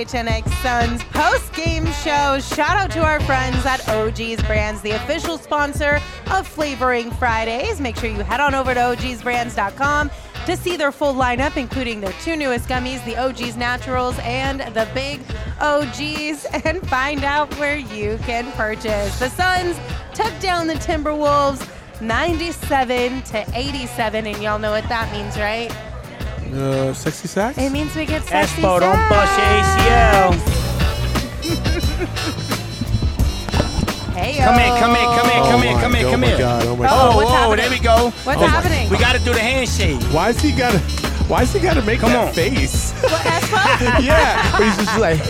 PHNX Suns post-game show. Shout out to our friends at OG's Brands, the official sponsor of Flavoring Fridays. Make sure you head on over to ogsbrands.com to see their full lineup, including their 2 newest gummies, the OG's Naturals and the Big OGs, and find out where you can purchase. The Suns took down the Timberwolves 97-87, and y'all know what that means, right? Sexy sacks? It means we get sexy Espo, don't bust your ACL. Hey, Come here. Oh my God. what's happening? There we go. What's happening? We got to do the handshake. Why is he gotta make Come that on. face? What, Espo? Yeah, where he's just like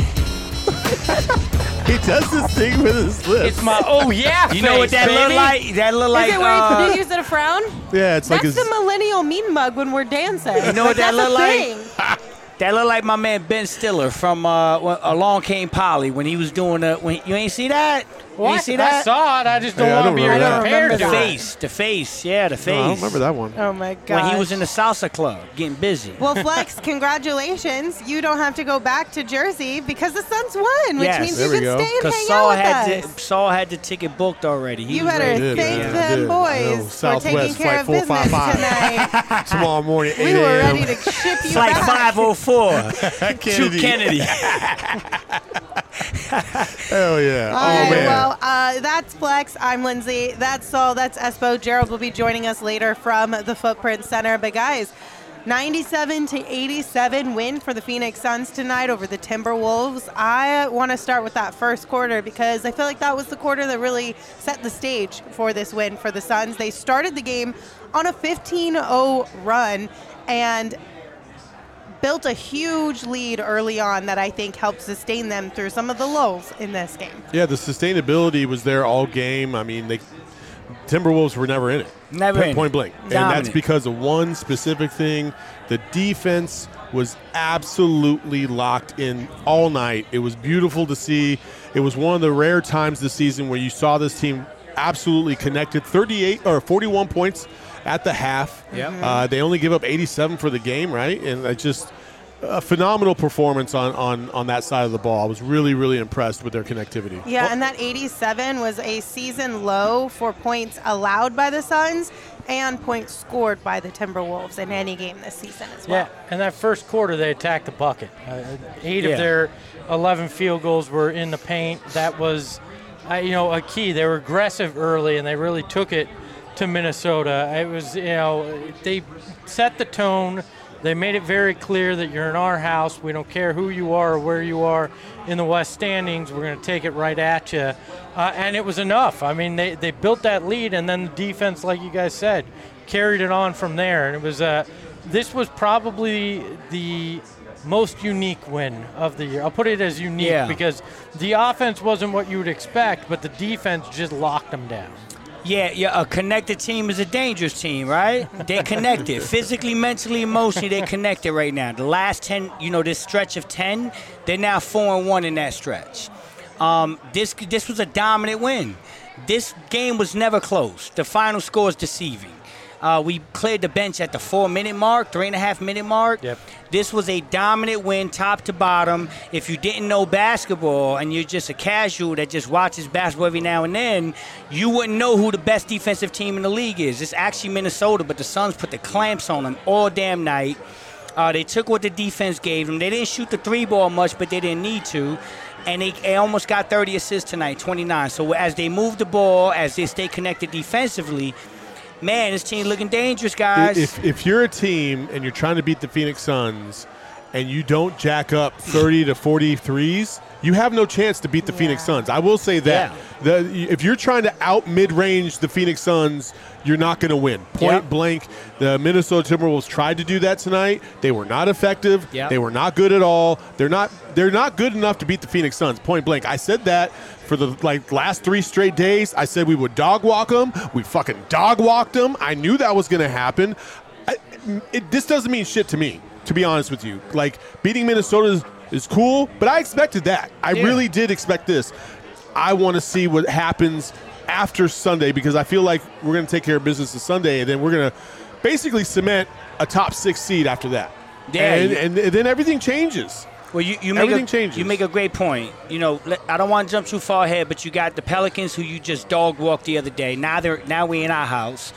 he does this thing with his lips. It's my You know what that look like? That look like Is it where you use it a frown? Yeah, it's That's like his. the millennial mean mug when we're dancing. You know what that that's a look like? thing. That look like my man Ben Stiller from Along Came Polly when he was doing you ain't see that? You ain't see I that? saw it. I just don't Hey, I want to don't be remember that. prepared I to don't it. remember The face, yeah, the face. No, I don't remember that one. Oh my god. When he was in the salsa club, getting busy. Well, Flex, congratulations. You don't have to go back to Jersey because the Suns won, which Yes. means There you we can go. stay and Because hang Saul out with us. Saul had the ticket booked already. He You was better ready. did, thank man. them Did. I know. boys for taking Southwest care of Flight business 455. tonight. Tomorrow morning, 8 We were a.m. ready to ship you Flight back. 504 to Kennedy. Kennedy. Hell yeah. All Oh, right, man. well, that's Flex. I'm Lindsay. That's Saul. That's Espo. Gerald will be joining us later from the Footprint Center. But guys, 97-87 win for the Phoenix Suns tonight over the Timberwolves. I want to start with that first quarter because I feel like that was the quarter that really set the stage for this win for the Suns. They started the game on a 15-0 run and built a huge lead early on that I think helped sustain them through some of the lulls in this game. Yeah, the sustainability was there all game. I mean, Timberwolves were never in it. Never in it. Point blank. And Dominant. that's because of one specific thing. The defense was absolutely locked in all night. It was beautiful to see. It was one of the rare times this season where you saw this team absolutely connected. 41 points at the half. Yep. They only give up 87 for the game, right? And it's just a phenomenal performance on that side of the ball. I was really, really impressed with their connectivity. Yeah, and that 87 was a season low for points allowed by the Suns and points scored by the Timberwolves in any game this season as well. Yeah, and that first quarter they attacked the bucket. 8 Yeah. of their 11 field goals were in the paint. That was, a key. They were aggressive early, and they really took it to Minnesota. It was, they set the tone. They made it very clear that you're in our house. We don't care who you are or where you are in the West standings. We're going to take it right at you. And it was enough. I mean, they built that lead, and then the defense, like you guys said, carried it on from there. And it was this was probably the most unique win of the year. I'll put it as unique because the offense wasn't what you would expect, but the defense just locked them down. Yeah, a connected team is a dangerous team, right? They're connected. Physically, mentally, emotionally, they're connected right now. The last 10, this stretch of 10, they're now 4-1 in that stretch. This was a dominant win. This game was never close. The final score is deceiving. We cleared the bench at the 4-minute mark, 3.5-minute mark. Yep. This was a dominant win, top to bottom. If you didn't know basketball and you're just a casual that just watches basketball every now and then, you wouldn't know who the best defensive team in the league is. It's actually Minnesota, but the Suns put the clamps on them all damn night. They took what the defense gave them. They didn't shoot the 3-ball much, but they didn't need to. And they almost got 30 assists tonight, 29. So as they move the ball, as they stay connected defensively, man, this team looking dangerous, guys. If you're a team and you're trying to beat the Phoenix Suns and you don't jack up 30 to 40 threes, you have no chance to beat the Phoenix Suns. I will say that. If you're trying to out mid-range the Phoenix Suns, you're not going to win. Point blank, the Minnesota Timberwolves tried to do that tonight. They were not effective. They were not good at all. They're not good enough to beat the Phoenix Suns. Point blank. I said that for the last 3 straight days. I said we would dog walk them. We fucking dog walked them. I knew that was going to happen. This doesn't mean shit to me, to be honest with you. Beating Minnesota is cool, but I expected that. I really did expect this. I want to see what happens after Sunday because I feel like we're going to take care of business on Sunday, and then we're going to basically cement a top 6 seed after that. And then everything changes. Well, you everything changes. You make a great point. You know, I don't want to jump too far ahead, but you got the Pelicans who you just dog walked the other day. Now we in our house.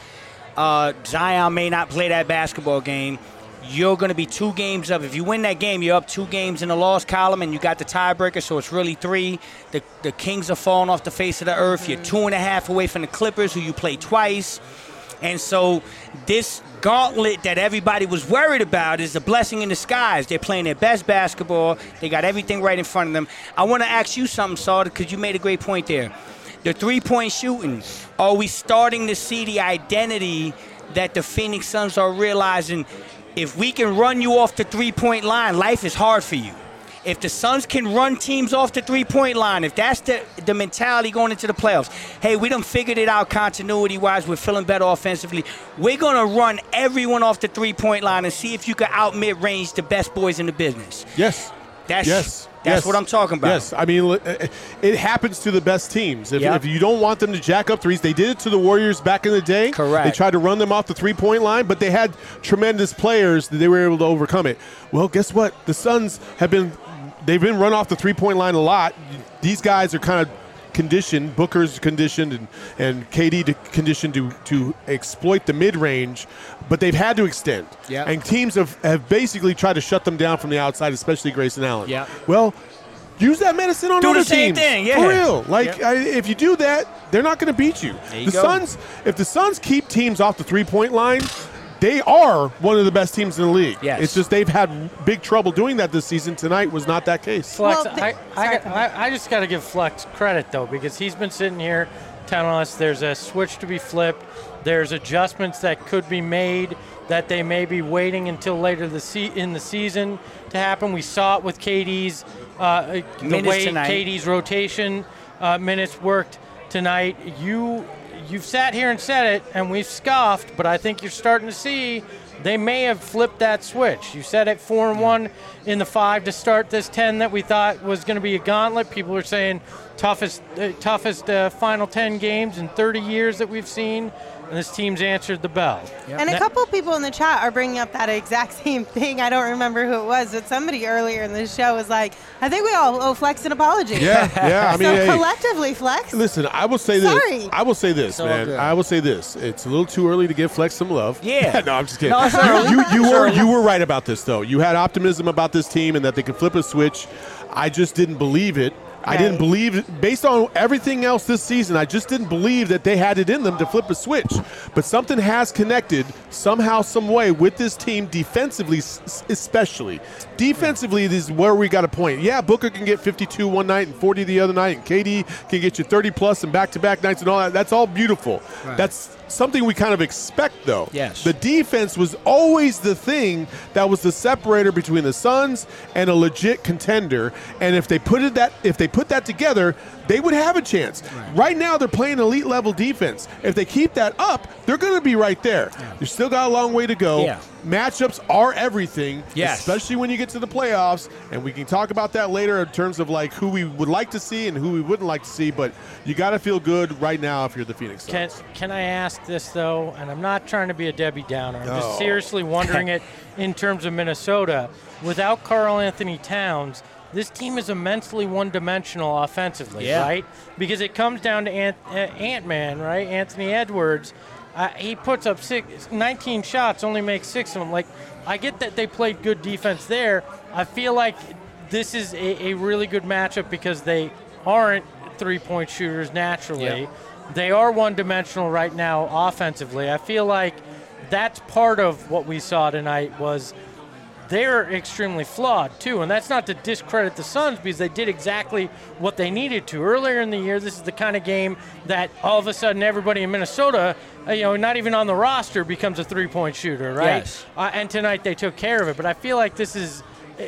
Zion may not play that basketball game. You're going to be 2 games up. If you win that game, you're up 2 games in the loss column, and you got the tiebreaker, so it's really 3. The Kings are falling off the face of the earth. You're 2.5 away from the Clippers, who you play twice. And so this gauntlet that everybody was worried about is a blessing in disguise. They're playing their best basketball. They got everything right in front of them. I want to ask you something, Saul, because you made a great point there. The 3-point shooting, are we starting to see the identity that the Phoenix Suns are realizing? If we can run you off the 3-point line, life is hard for you. If the Suns can run teams off the 3-point line, if that's the mentality going into the playoffs, hey, we done figured it out continuity-wise. We're feeling better offensively. We're going to run everyone off the 3-point line and see if you can out-mid-range the best boys in the business. Yes. That's what I'm talking about. Yes, I mean, it happens to the best teams. If you don't want them to jack up threes, they did it to the Warriors back in the day. Correct. They tried to run them off the 3-point line, but they had tremendous players that they were able to overcome it. Well, guess what? The Suns they've been run off the 3-point line a lot. These guys are kind of conditioned. Booker's conditioned and KD conditioned to exploit the mid-range, but they've had to extend. Yep. And teams have basically tried to shut them down from the outside, especially Grayson Allen. Yep. Well, use that medicine on other teams. Do the same thing, yeah. For real. If you do that, they're not going to beat you. There you go. If the Suns keep teams off the 3-point line, they are one of the best teams in the league. Yes. It's just they've had big trouble doing that this season. Tonight was not that case. Flex, Well, I just got to give Flex credit, though, because he's been sitting here telling us there's a switch to be flipped. There's adjustments that could be made that they may be waiting until later in the season to happen. We saw it with KD's the way tonight. KD's rotation minutes worked tonight. You've sat here and said it, and we've scoffed, but I think you're starting to see they may have flipped that switch. You said it 4-1 in the 5 to start this 10 that we thought was going to be a gauntlet. People are saying toughest final 10 games in 30 years that we've seen, and this team's answered the bell. Yep. And a couple people in the chat are bringing up that exact same thing. I don't remember who it was, but somebody earlier in the show was like, I think we all owe Flex an apology. Yeah. I mean, So collectively, Flex. listen, I will say Sorry. this. I will say this, all man. good. I will say this. It's a little too early to give Flex some love. Yeah. No, I'm just kidding. No, it's early. You were right about this, though. You had optimism about this team and that they could flip a switch. I just didn't believe it. I didn't believe, based on everything else this season, I just didn't believe that they had it in them to flip a switch. But something has connected somehow, some way with this team defensively, especially. Defensively, this is where we got a point. Yeah, Booker can get 52 one night and 40 the other night, and KD can get you 30-plus and back-to-back nights and all that. That's all beautiful. Right. That's something we kind of expect, though. Yes. The defense was always the thing that was the separator between the Suns and a legit contender. And if they put that together, they would have a chance. Right now, they're playing elite level defense. If they keep that up, they're going to be right there. You still got a long way to go. Yeah. Matchups are everything, Yes. especially when you get to the playoffs. And we can talk about that later in terms of like who we would like to see and who we wouldn't like to see. But you got to feel good right now if you're the Phoenix Suns. Can I ask this, though? And I'm not trying to be a Debbie Downer. I'm No. just seriously wondering it in terms of Minnesota. Without Karl Anthony Towns, this team is immensely one-dimensional offensively, right? Because it comes down to Ant-Man, right? Anthony Edwards. He puts up 19 shots, only makes 6 of them. Like, I get that they played good defense there. I feel like this is a really good matchup because they aren't three-point shooters naturally. Yep. They are one-dimensional right now offensively. I feel like that's part of what we saw tonight was they're extremely flawed too, and that's not to discredit the Suns because they did exactly what they needed to. Earlier in the year, this is the kind of game that all of a sudden everybody in Minnesota, not even on the roster, becomes a three-point shooter, right? Yes. And tonight they took care of it, but I feel like this is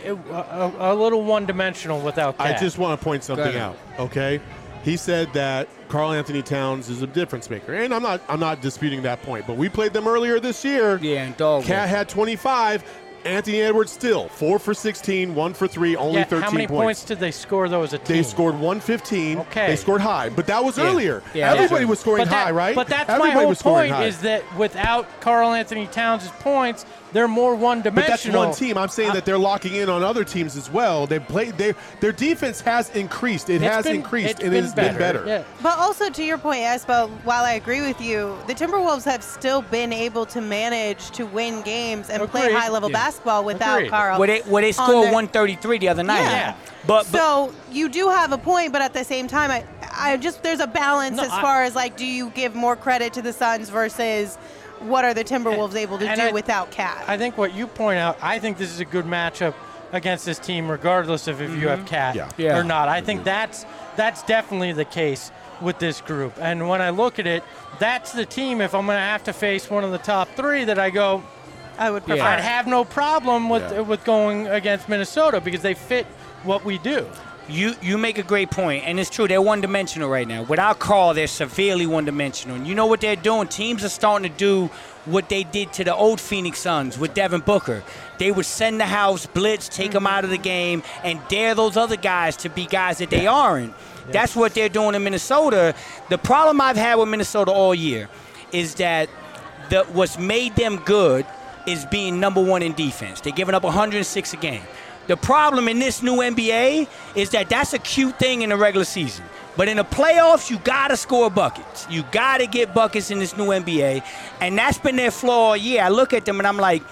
a little one-dimensional without that. I just want to point something out, okay? He said that Karl Anthony Towns is a difference maker, and I'm not disputing that point. But we played them earlier this year. Yeah, and dog. Cat had 25. Anthony Edwards still 4 for 16, 1 for 3, only 13 How many points did they score, though, as a team? They scored 115. Okay. They scored high, but that was earlier. Yeah, Everybody was scoring high, right? But that's Everybody my whole was scoring point high. is that without Karl Anthony Towns' points, they're more one-dimensional. But that's one team. I'm saying that they're locking in on other teams as well. They played. Their defense has increased. It has increased, and it's been better. Yeah. But also, to your point, Espo, while I agree with you, the Timberwolves have still been able to manage to win games and play Agreed. high-level basketball without Agreed. Karl. Where they scored 133 the other night. Yeah. But So you do have a point, but at the same time, I just there's a balance No, as far as like, do you give more credit to the Suns versus what are the Timberwolves able to do without Cat? I think what you point out, I think this is a good matchup against this team, regardless of if you have Cat Yeah. or not. I think that's definitely the case with this group. And when I look at it, that's the team, if I'm going to have to face one of the top three, that I go, I would prefer. I'd have no problem with going against Minnesota because they fit what we do. You make a great point, and it's true. They're one-dimensional right now. Without Karl, they're severely one-dimensional. And you know what they're doing? Teams are starting to do what they did to the old Phoenix Suns with Devin Booker. They would send the house, blitz, take them out of the game, and dare those other guys to be guys that they aren't. That's what they're doing in Minnesota. The problem I've had with Minnesota all year is that what's made them good is being number one in defense. They're giving up 106 a game. The problem in this new NBA is that that's a cute thing in the regular season. But in the playoffs, you got to score buckets. You got to get buckets in this new NBA. And that's been their flaw all year. I look at them and I'm like,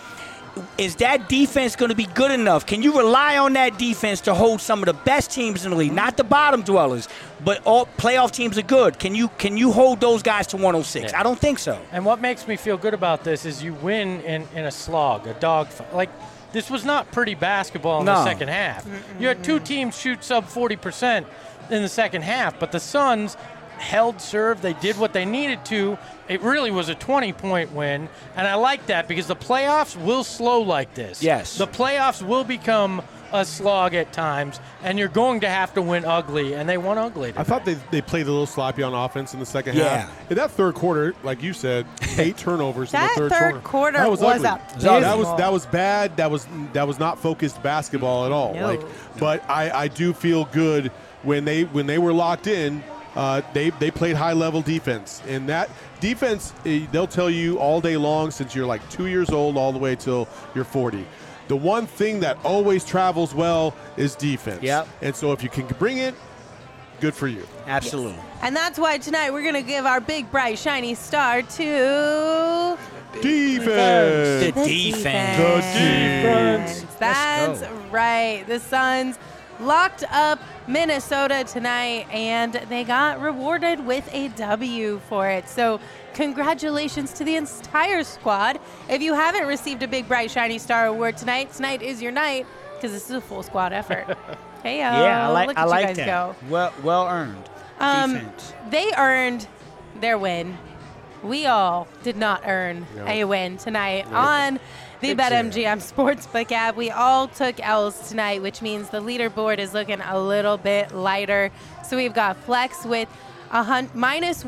is that defense going to be good enough? Can you rely on that defense to hold some of the best teams in the league? Not the bottom dwellers, but all playoff teams are good. Can you hold those guys to 106? Yeah. I don't think so. And what makes me feel good about this is you win in a slog, a dogfight. Like, this was not pretty basketball in the second half. You had two teams shoot sub 40% in the second half, but the Suns held serve. They did what they needed to. It really was a 20-point win, and I like that because the playoffs will slow like this. Yes. The playoffs will become a slog at times, and you're going to have to win ugly, and they won ugly today. I thought they played a little sloppy on offense in the second Yeah. half. In that third quarter, like you said, 8 turnovers in the That third quarter That was ugly. abysmal. That was bad. That was not focused basketball at all. No. But I do feel good when they were locked in. They played high level defense, and that defense they'll tell you all day long since you're like 2 years old all the way till you're 40. The one thing that always travels well is defense. Yep. And so if you can bring it, good for you. Absolutely. And that's why tonight we're going to give our big, bright, shiny star to Defense. The defense. The defense. That's go. right. The Suns locked up Minnesota tonight, and they got rewarded with a W for it. So congratulations to the entire squad. If you haven't received a big, bright, shiny star award tonight is your night because this is a full squad effort. Hey, Yeah, I look like at you like guys that. go. Well earned. Defense. They earned their win. We all did not earn a win tonight on the BetMGM Sportsbook app. We all took L's tonight, which means the leaderboard is looking a little bit lighter. So we've got Flex with minus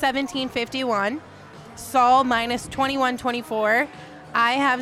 117.51, Saul minus 21.24. I have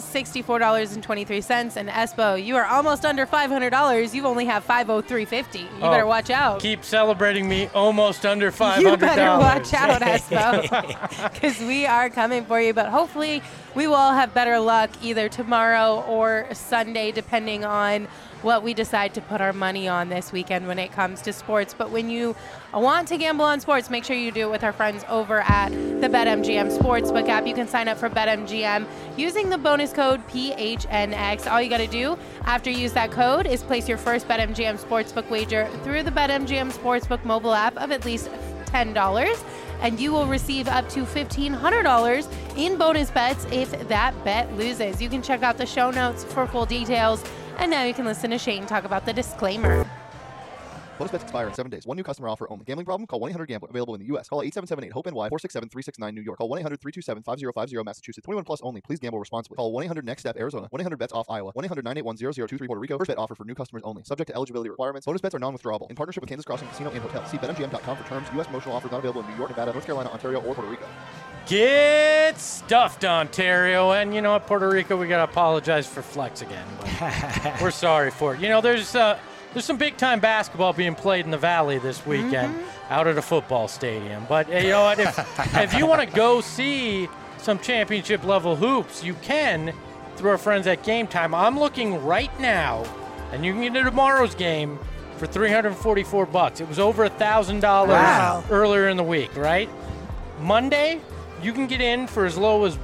$64.23, and Espo, you are almost under $500. You only have $503.50. You better watch out. Keep celebrating me almost under $500. You better watch out, Espo, because we are coming for you. But hopefully we will all have better luck either tomorrow or Sunday, depending on what we decide to put our money on this weekend when it comes to sports. But when you want to gamble on sports, make sure you do it with our friends over at the BetMGM Sportsbook app. You can sign up for BetMGM using the bonus code PHNX. All you got to do after you use that code is place your first BetMGM Sportsbook wager through the BetMGM Sportsbook mobile app of at least $10. And you will receive up to $1,500 in bonus bets if that bet loses. You can check out the show notes for full details. And now you can listen to Shane talk about the disclaimer. Bonus bets expire in 7 days. One new customer offer only. Gambling problem? Call 1-800-GAMBLER. Available in the U.S. Call 877-8-HOPE-NY 467-369 New York. Call 1-800-327-5050 Massachusetts. 21 plus only. Please gamble responsibly. Call 1-800-NEXT-STEP Arizona. 1-800-BETS-OFF Iowa. 1-800-981-0023 Puerto Rico. First bet offer for new customers only. Subject to eligibility requirements. Bonus bets are non-withdrawable. In partnership with Kansas Crossing Casino and Hotel. See BetMGM.com for terms. U.S. promotional offers not available in New York, Nevada, North Carolina, Ontario, or Puerto Rico. Get stuffed, Ontario. And you know what, Puerto Rico, we got to apologize for Flex again. But we're sorry for it. You know, there's some big-time basketball being played in the Valley this weekend out at a football stadium. But you know what, if you want to go see some championship-level hoops, you can through our friends at Game Time. I'm looking right now, and you can get to tomorrow's game for $344. It was over $1,000 earlier in the week, right? Monday, you can get in for as low as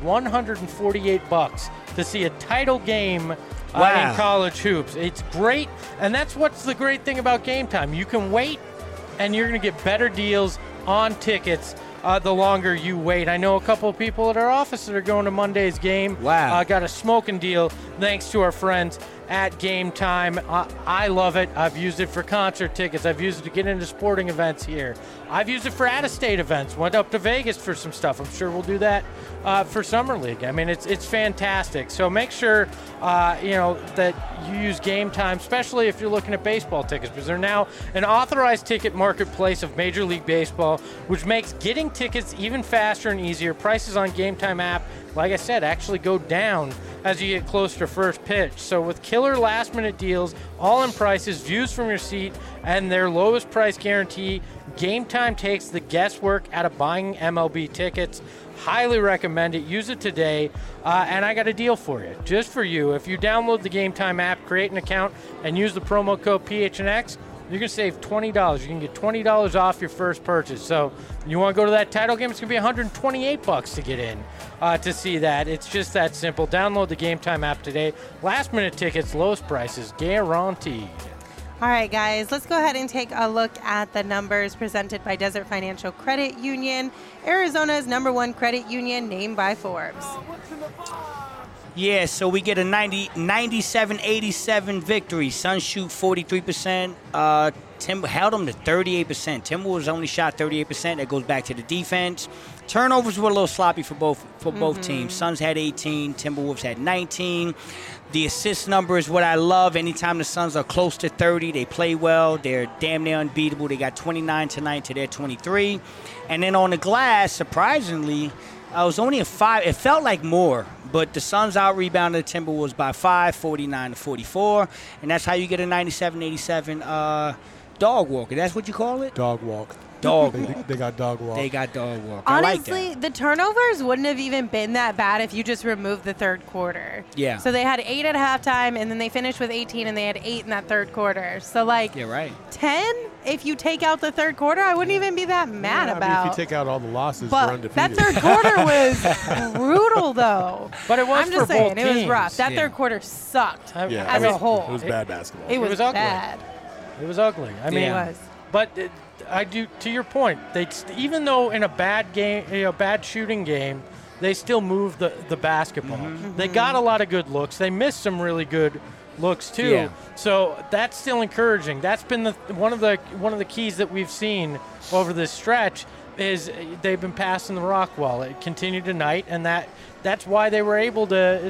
$148 to see a title game in college hoops. It's great, and that's what's the great thing about Game Time. You can wait, and you're going to get better deals on tickets the longer you wait. I know a couple of people at our office that are going to Monday's game. Wow. Got a smoking deal thanks to our friends at Game Time. I love it. I've used it for concert tickets. I've used it to get into sporting events here. I've used it for out-of-state events. Went up to Vegas for some stuff. I'm sure we'll do that for Summer League. I mean, it's fantastic. So make sure that you use Game Time, especially if you're looking at baseball tickets, because they're now an authorized ticket marketplace of Major League Baseball, which makes getting tickets even faster and easier. Prices on Game Time app, like I said, actually go down as you get closer to first pitch. So with killer last-minute deals, all-in prices, views from your seat, and their lowest price guarantee, Game Time takes the guesswork out of buying MLB tickets. Highly recommend it. Use it today. And I got a deal for you, just for you. If you download the Game Time app, create an account, and use the promo code PHNX, you're going to save $20. You can get $20 off your first purchase. So you want to go to that title game, it's going to be $128 to get in to see that. It's just that simple. Download the Game Time app today. Last-minute tickets, lowest prices, guaranteed. All right, guys, let's go ahead and take a look at the numbers presented by Desert Financial Credit Union, Arizona's #1 credit union named by Forbes. Yeah, so we get a 97-87 victory. Suns shoot 43%. Timber held them to 38%. Timberwolves only shot 38%. That goes back to the defense. Turnovers were a little sloppy for both teams. Suns had 18. Timberwolves had 19. The assist number is what I love. Anytime the Suns are close to 30, they play well. They're damn near unbeatable. They got 29 tonight to their 23. And then on the glass, surprisingly, it was only a 5. It felt like more, but the Suns out-rebounded the Timberwolves by 5, 49-44. And that's how you get a 97-87 dog walker. That's what you call it? Dog walk. Dog walk. They got dog walk. They got dog walk. Honestly, I like that. the turnovers wouldn't have even been that bad if you just removed the third quarter. Yeah. So they had 8 at halftime, and then they finished with 18, and they had 8 in that third quarter. So, like, Yeah, right. 10, if you take out the third quarter, I wouldn't even be that mad I about. mean, if you take out all the losses, we're But undefeated. that third quarter was brutal, though. But it was I'm for just saying, both it was teams. rough. That Yeah. third quarter sucked Yeah, as it was- a whole. It was bad basketball. It was was ugly. bad. It was ugly. I mean, It was. But I do, to your point, even though in a bad game, bad shooting game, they still moved the basketball. They got a lot of good looks. They missed some really good looks too. Yeah. So that's still encouraging. That's been one of the keys that we've seen over this stretch is they've been passing the rock well. It continued tonight, and that's why they were able to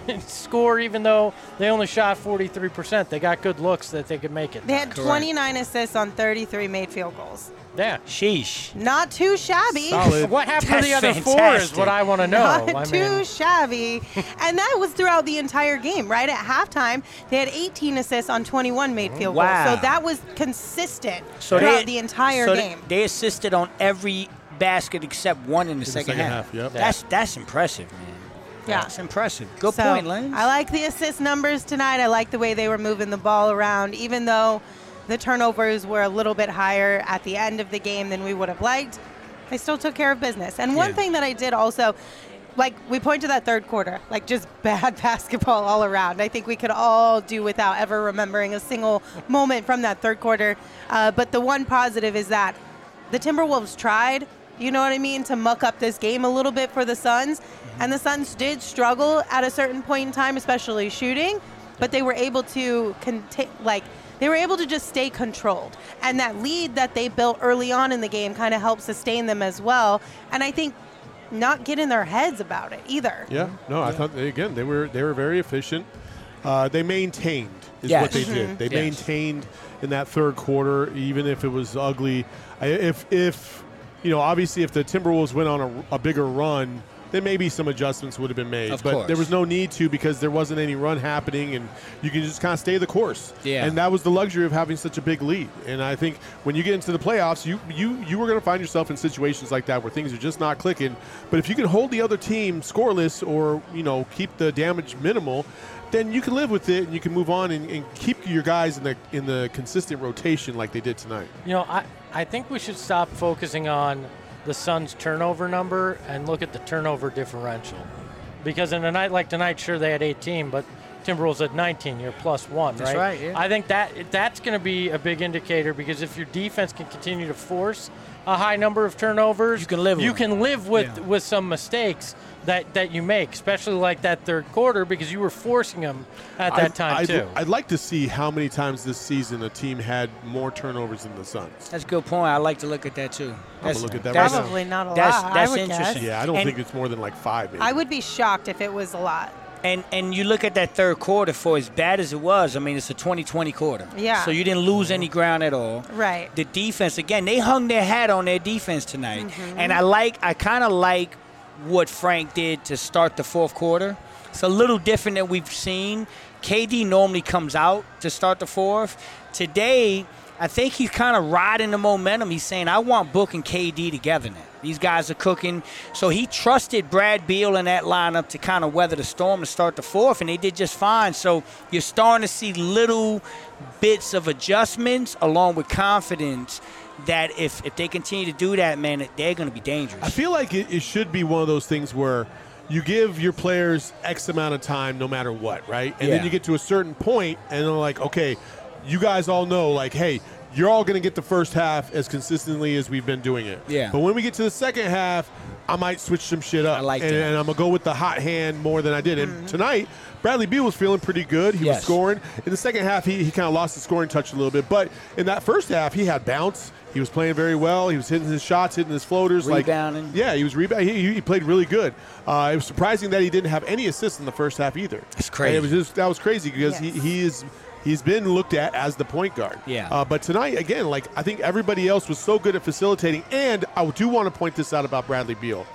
score even though they only shot 43%. They got good looks that they could make it. They had Correct. 29 assists on 33 made field goals. Yeah. Sheesh. Not too shabby. Solid. What happened to That's the other 4 is fantastic. what I want to know. Not I too mean, shabby. And that was throughout the entire game, right? At halftime, they had 18 assists on 21 made field Wow. goals. So that was consistent So throughout the entire so game. They assisted on every basket except one in the second half. Yep. That's impressive, man. Yeah. That's impressive. Good So, point, Lens. I like the assist numbers tonight. I like the way they were moving the ball around, even though the turnovers were a little bit higher at the end of the game than we would have liked. They still took care of business. And one Yeah. thing that I did also, like, we point to that third quarter, like just bad basketball all around. I think we could all do without ever remembering a single moment from that third quarter. But the one positive is that the Timberwolves tried, you know what I mean, to muck up this game a little bit for the Suns. And the Suns did struggle at a certain point in time, especially shooting, but they were able to they were able to just stay controlled. And that lead that they built early on in the game kind of helped sustain them as well. And I think not get in their heads about it either. Yeah, no, I thought again they were very efficient. They maintained is Yes. what they did. They Yes. maintained in that third quarter, even if it was ugly. If obviously if the Timberwolves went on a bigger run, then maybe some adjustments would have been made. Of but course. there was no need to because there wasn't any run happening, and you can just kind of stay the course. Yeah. And that was the luxury of having such a big lead. And I think when you get into the playoffs, you were going to find yourself in situations like that where things are just not clicking. But if you can hold the other team scoreless or, keep the damage minimal, then you can live with it and you can move on and keep your guys in the consistent rotation like they did tonight. I think we should stop focusing on the Suns' turnover number and look at the turnover differential. Because in a night like tonight, sure, they had 18, but Timberwolves had 19. You're +1, right? That's right, yeah. I think that's going to be a big indicator because if your defense can continue to force a high number of turnovers, you can live with some mistakes that you make, especially like that third quarter because you were forcing them at that time too. I'd like to see how many times this season a team had more turnovers than the Suns. That's a good point. I like to look at that too. I'm going to look at that right now. Probably not a lot. That's I would interesting. guess. Yeah, I don't think it's more than like 5. Maybe. I would be shocked if it was a lot. And you look at that third quarter, for as bad as it was, I mean, it's a 20-20 quarter. Yeah. So you didn't lose any ground at all. Right. The defense, again, they hung their hat on their defense tonight. Mm-hmm. And I kind of like what Frank did to start the fourth quarter. It's a little different than we've seen. KD normally comes out to start the fourth. Today, I think he's kind of riding the momentum. He's saying, I want Book and KD together now. These guys are cooking. So he trusted Brad Beal in that lineup to kind of weather the storm to start the fourth, and they did just fine. So you're starting to see little bits of adjustments along with confidence that if they continue to do that, man, they're going to be dangerous. I feel like it should be one of those things where you give your players X amount of time no matter what, right? And then you get to a certain point, and they're like, okay, you guys all know, like, hey, you're all going to get the first half as consistently as we've been doing it. Yeah. But when we get to the second half, I might switch some shit up. I like that. And I'm going to go with the hot hand more than I did. And tonight, Bradley Beal was feeling pretty good. He was scoring. In the second half, he kind of lost the scoring touch a little bit. But in that first half, he had bounce. He was playing very well. He was hitting his shots, hitting his floaters. Rebounding. He was rebounding. He played really good. It was surprising that he didn't have any assists in the first half either. It's crazy. And that was crazy because he's been looked at as the point guard. Yeah. But tonight, again, I think everybody else was so good at facilitating. And I do want to point this out about Bradley Beal.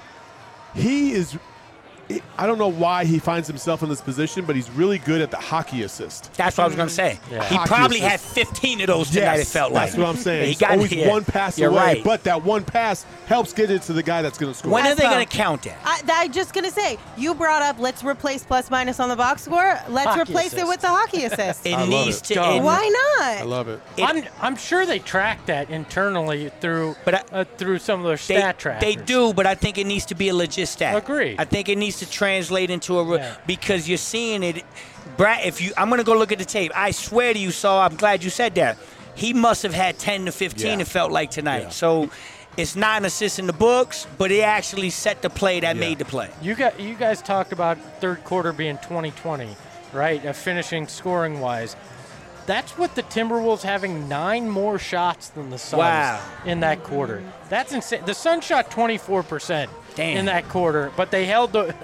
I don't know why he finds himself in this position, but he's really good at the hockey assist. That's what I was going to say. Yeah. He probably had 15 of those tonight, it felt like. That's what I'm saying. He got always one pass You're away, right. but that one pass helps get it to the guy that's going to score. When are they That's going to count that? I'm just going to say, you brought up let's replace plus minus on the box score. Let's Hockey replace it assist. with the hockey assist. It love needs it. to. Go. Why not? I love it. I'm sure they track that internally through through some of their stat trackers. They do, but I think it needs to be a legit stat. Agreed. I think it needs to translate into a Yeah. because you're seeing it. Brad, I'm going to go look at the tape. I swear to you, Saul, I'm glad you said that. He must have had 10 to 15. Yeah. It felt like tonight. Yeah. So it's not an assist in the books, but it actually set the play that made the play. You guys talked about third quarter being 20-20, right? Finishing scoring wise. That's with the Timberwolves having 9 more shots than the Suns in that quarter. That's insane. The Suns shot 24% in that quarter, but they held the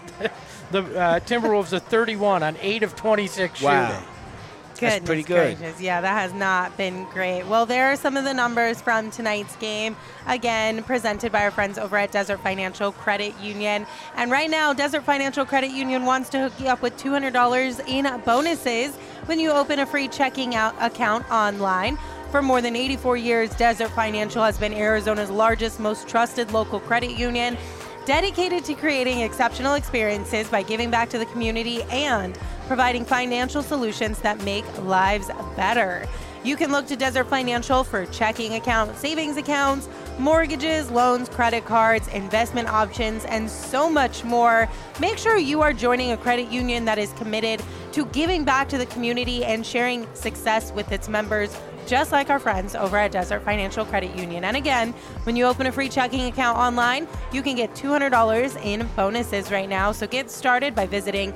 Timberwolves to 31 on 8 of 26 shooting. That's Goodness pretty good. gracious. Yeah, that has not been great. Well, there are some of the numbers from tonight's game. Again, presented by our friends over at Desert Financial Credit Union. And right now, Desert Financial Credit Union wants to hook you up with $200 in bonuses when you open a free checking account online. For more than 84 years, Desert Financial has been Arizona's largest, most trusted local credit union, dedicated to creating exceptional experiences by giving back to the community and providing financial solutions that make lives better. You can look to Desert Financial for checking accounts, savings accounts, mortgages, loans, credit cards, investment options, and so much more. Make sure you are joining a credit union that is committed to giving back to the community and sharing success with its members, just like our friends over at Desert Financial Credit Union. And again, when you open a free checking account online, you can get $200 in bonuses right now. So get started by visiting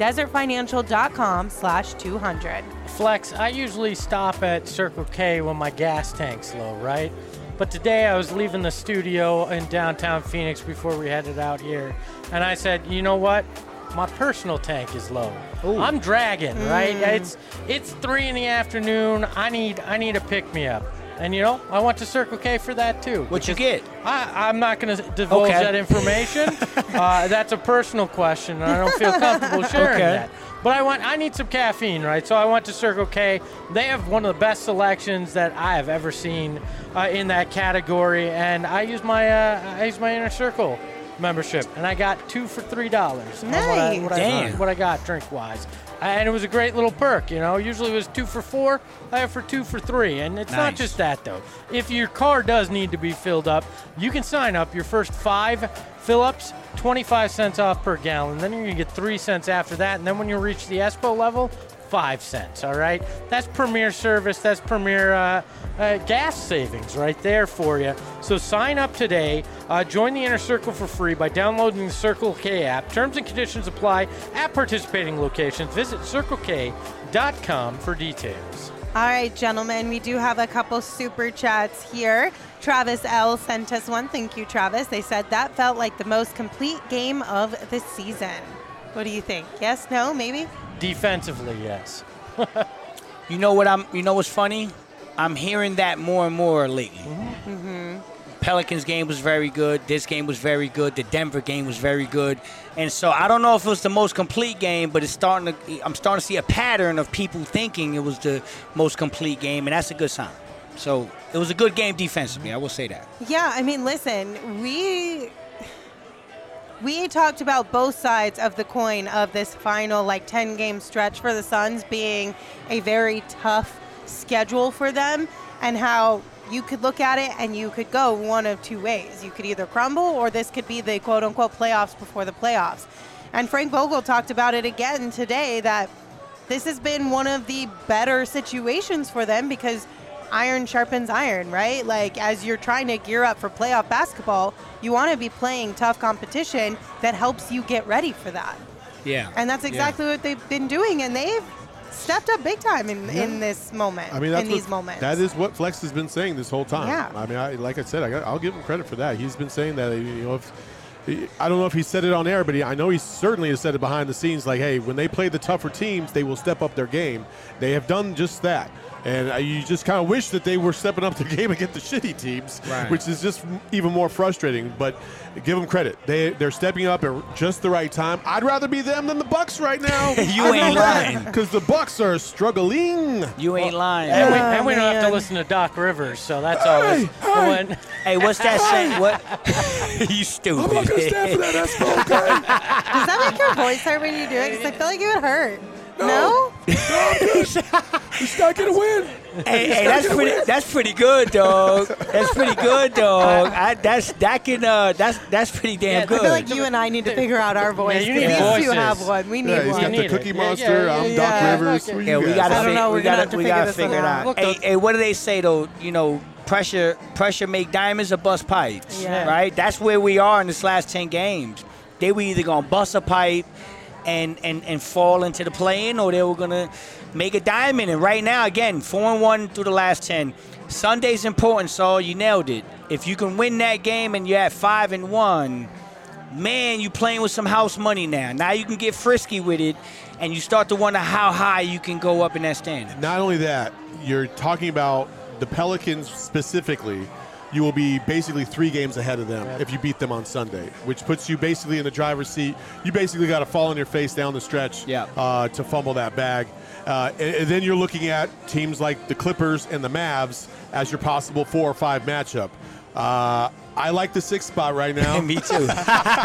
desertfinancial.com/200. Flex, I usually stop at Circle K when my gas tank's low, right? But today I was leaving the studio in downtown Phoenix before we headed out here, and I said, you know what? My personal tank is low. I'm dragging, right? It's 3 in the afternoon. I need a pick me up. And, I went to Circle K for that, too. What you get? I'm not going to divulge that information. That's a personal question, and I don't feel comfortable sharing that. But I need some caffeine, right? So I went to Circle K. They have one of the best selections that I have ever seen in that category, and I used my Inner Circle membership, and I got 2 for $3. Nice. What I got drink-wise. And it was a great little perk, Usually it was 2 for $4. I have for 2 for $3. And it's not just that, though. If your car does need to be filled up, you can sign up. Your first 5 fill-ups, 25 cents off per gallon. Then you're going to get 3 cents after that. And then when you reach the Espo level, 5 cents, all right? That's premier service. That's premier gas savings right there for you. So sign up today. Join the Inner Circle for free by downloading the Circle K app. Terms and conditions apply at participating locations. Visit CircleK.com for details. All right, gentlemen, we do have a couple super chats here. Travis L. sent us one. Thank you, Travis. They said that felt like the most complete game of the season. What do you think? Yes, no, maybe? Defensively, yes. You know what's funny? I'm hearing that more and more lately. Pelicans game was very good. This game was very good. The Denver game was very good. And so I don't know if it was the most complete game, but I'm starting to see a pattern of people thinking it was the most complete game, and that's a good sign. So it was a good game defensively. I will say that. Yeah, I mean, listen, we talked about both sides of the coin of this final 10-game stretch for the Suns being a very tough schedule for them, and how you could look at it and you could go one of two ways. You could either crumble, or this could be the quote-unquote playoffs before the playoffs. And Frank Vogel talked about it again today, that this has been one of the better situations for them because iron sharpens iron, right? As you're trying to gear up for playoff basketball, you want to be playing tough competition that helps you get ready for that. Yeah. And that's exactly what they've been doing, and they've stepped up big time in this moment, these moments. That is what Flex has been saying this whole time. Yeah. I mean, like I said, I'll give him credit for that. He's been saying that, I don't know if he said it on air, but I know he certainly has said it behind the scenes, hey, when they play the tougher teams, they will step up their game. They have done just that. And you just kind of wish that they were stepping up the game against the shitty teams, which is just even more frustrating. But give them credit. They're stepping up at just the right time. I'd rather be them than the Bucks right now. You ain't lying. Because the Bucks are struggling. You ain't lying. And we don't have to listen to Doc Rivers, so that's always one. Hey, what's that saying? What? You stupid. I'm not going to stand for that, Espo, okay? Does that make your voice hurt when you do it? Because I feel like it would hurt. No? He's not going to win. Hey, that's pretty good, dog. That's pretty good, dog. That's pretty damn good. I feel like you and I need to figure out our voice. Yeah, you need These voices. two have one. We need He's one. got the Cookie Monster. I'm Doc Rivers. Who Yeah, you we guys? gotta figure it out. Look, Hey, what do they say though? Pressure make diamonds or bust pipes. Yeah. Right. That's where we are in this last 10 games. They were either gonna bust a pipe and fall into the play-in, or they were gonna make a diamond. And right now, again, 4-1 through the last 10. Sunday's important, so you nailed it. If you can win that game and you're at 5-1, man, you playing with some house money now. Now you can get frisky with it, and you start to wonder how high you can go up in that standing. Not only that, you're talking about the Pelicans specifically. You will be basically 3 games ahead of them if you beat them on Sunday, which puts you basically in the driver's seat. You basically got to fall on your face down the stretch to fumble that bag. And then you're looking at teams like the Clippers and the Mavs as your possible 4 or 5 matchup. I like the 6th spot right now. Me too. Me too.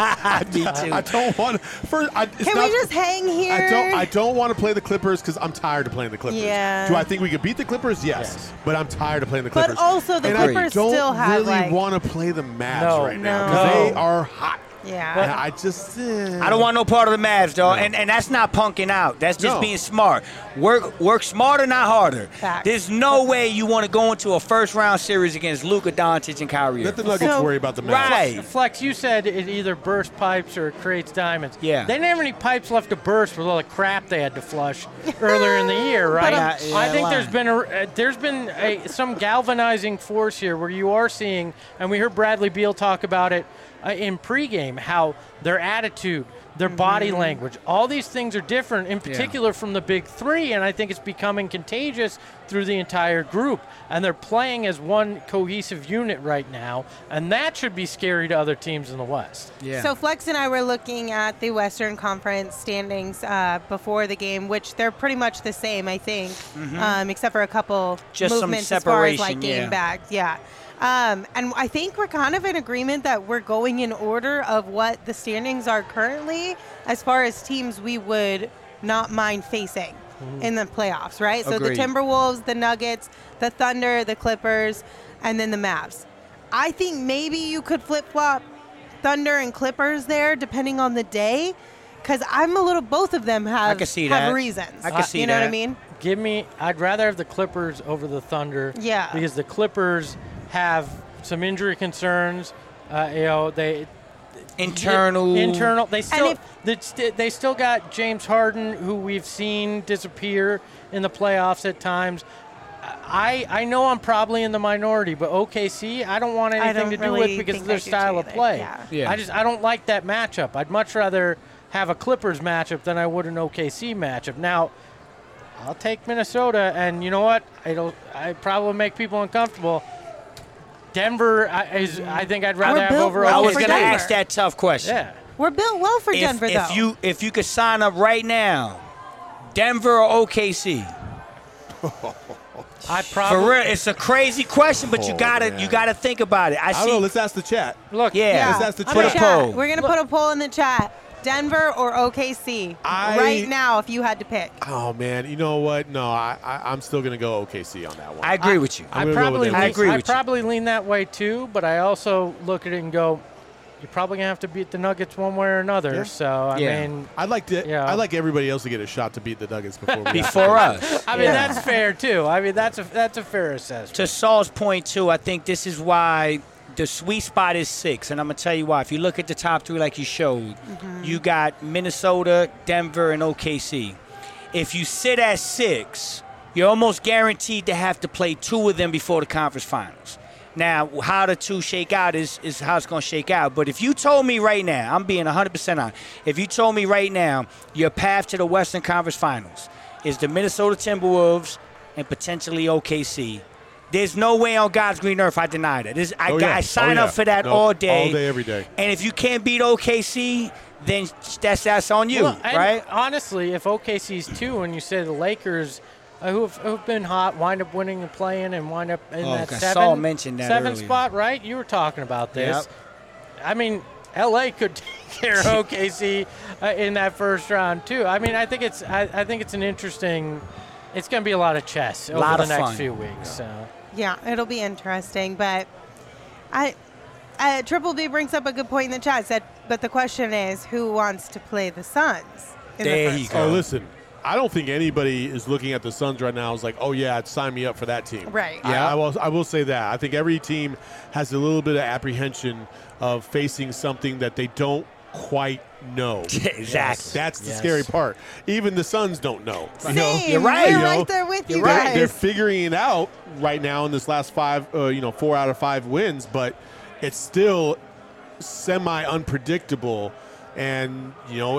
I don't want to. Can we just hang here? I don't want to play the Clippers because I'm tired of playing the Clippers. Yeah. Do I think we could beat the Clippers? Yes. But I'm tired of playing the Clippers. But also the Clippers still have I don't really want to play the Mavs right now No. because they are hot. Yeah. And I just. I don't want no part of the Mavs, dog. And that's not punking out. That's just being smart. Work smarter, not harder. Facts. There's no way you want to go into a first-round series against Luka Doncic and Kyrie. Let the Nuggets worry about the Mavs. Right. Flex, you said it either bursts pipes or it creates diamonds. Yeah. They didn't have any pipes left to burst with all the crap they had to flush earlier in the year, right? I think there's been some galvanizing force here where you are seeing, and we heard Bradley Beal talk about it in pregame, game, how their attitude, their body language, all these things are different, in particular from the big three, and I think it's becoming contagious through the entire group. And they're playing as one cohesive unit right now, and that should be scary to other teams in the West. Yeah. So Flex and I were looking at the Western Conference standings before the game, which they're pretty much the same, I think, except for a couple Just some movements as far as like separation, game yeah. bags. Yeah. And I think we're kind of in agreement that we're going in order of what the standings are currently as far as teams we would not mind facing in the playoffs, right? So the Agreed. Timberwolves, the Nuggets, the Thunder, the Clippers, and then the Mavs. I think maybe you could flip-flop Thunder and Clippers there depending on the day, because both of them have, can see have that. reasons. I can see You know what I that. mean? I'd rather have the Clippers over the Thunder. Yeah. Because the Clippers have some injury concerns. They Internal. They still got James Harden, who we've seen disappear in the playoffs at times. I know I'm probably in the minority, but OKC, I don't want anything to do with because of their style of play. Yeah. I don't like that matchup. I'd much rather have a Clippers matchup than I would an OKC matchup. Now, I'll take Minnesota, and you know what? I probably make people uncomfortable. Denver, I think I'd rather We're have built over. well I was for going to Denver. ask that tough question. Yeah. We're built well for Denver, though. If you could sign up right now, Denver or OKC? I For probably real, it's a crazy question, but you Oh, gotta man. think about it. I don't know. Let's ask the chat. look. Yeah. Let's ask the On the chat. Put a chat. poll. We're going to put a poll in the chat. Denver or OKC right now if you had to pick. Oh man, you know what? No, I'm still gonna go OKC on that one. I agree with you. I'm I gonna go probably with I Denver. agree I with you. probably lean that way too, but I also look at it and go, you're probably gonna have to beat the Nuggets one way or another. Yeah. So I Yeah. mean, I'd like everybody else to get a shot to beat the Nuggets before we Before us. I mean that's fair too. I mean that's a fair assessment. To Saul's point, too, I think this is why the sweet spot is 6, and I'm going to tell you why. If you look at the top 3 like you showed, you got Minnesota, Denver, and OKC. If you sit at 6, you're almost guaranteed to have to play 2 of them before the conference finals. Now, how the 2 shake out is how it's going to shake out. But if you told me right now, I'm being 100% honest, if you told me right now your path to the Western Conference Finals is the Minnesota Timberwolves and potentially OKC, there's no way on God's green earth I deny that. I sign up for that all day. All day, every day. And if you can't beat OKC, then that's on you, Well, and right? honestly, if OKC's 2 and you say the Lakers, who've been hot, wind up winning and playing and wind up in that God, 7 Saul mentioned that seven earlier. spot, right? You were talking about this. Yep. I mean, LA could take care of OKC in that first round too. I mean, I think it's an interesting. It's going to be a lot of chess over Lot the of next fun. few weeks. So. Yeah, it'll be interesting. But Triple B brings up a good point in the chat. Said, but the question is, who wants to play the Suns? In There the you first go. Oh, listen. I don't think anybody is looking at the Suns right now is like, oh yeah, sign me up for that team. Right. Yeah. I will say that. I think every team has a little bit of apprehension of facing something that they don't quite know. Exactly. That's the Yes. scary part. Even the Suns don't know. Same. You're right. We're You right know, there with you you're right. guys. They're figuring it out right now in this last 4 out of 5 wins, but it's still semi-unpredictable. And,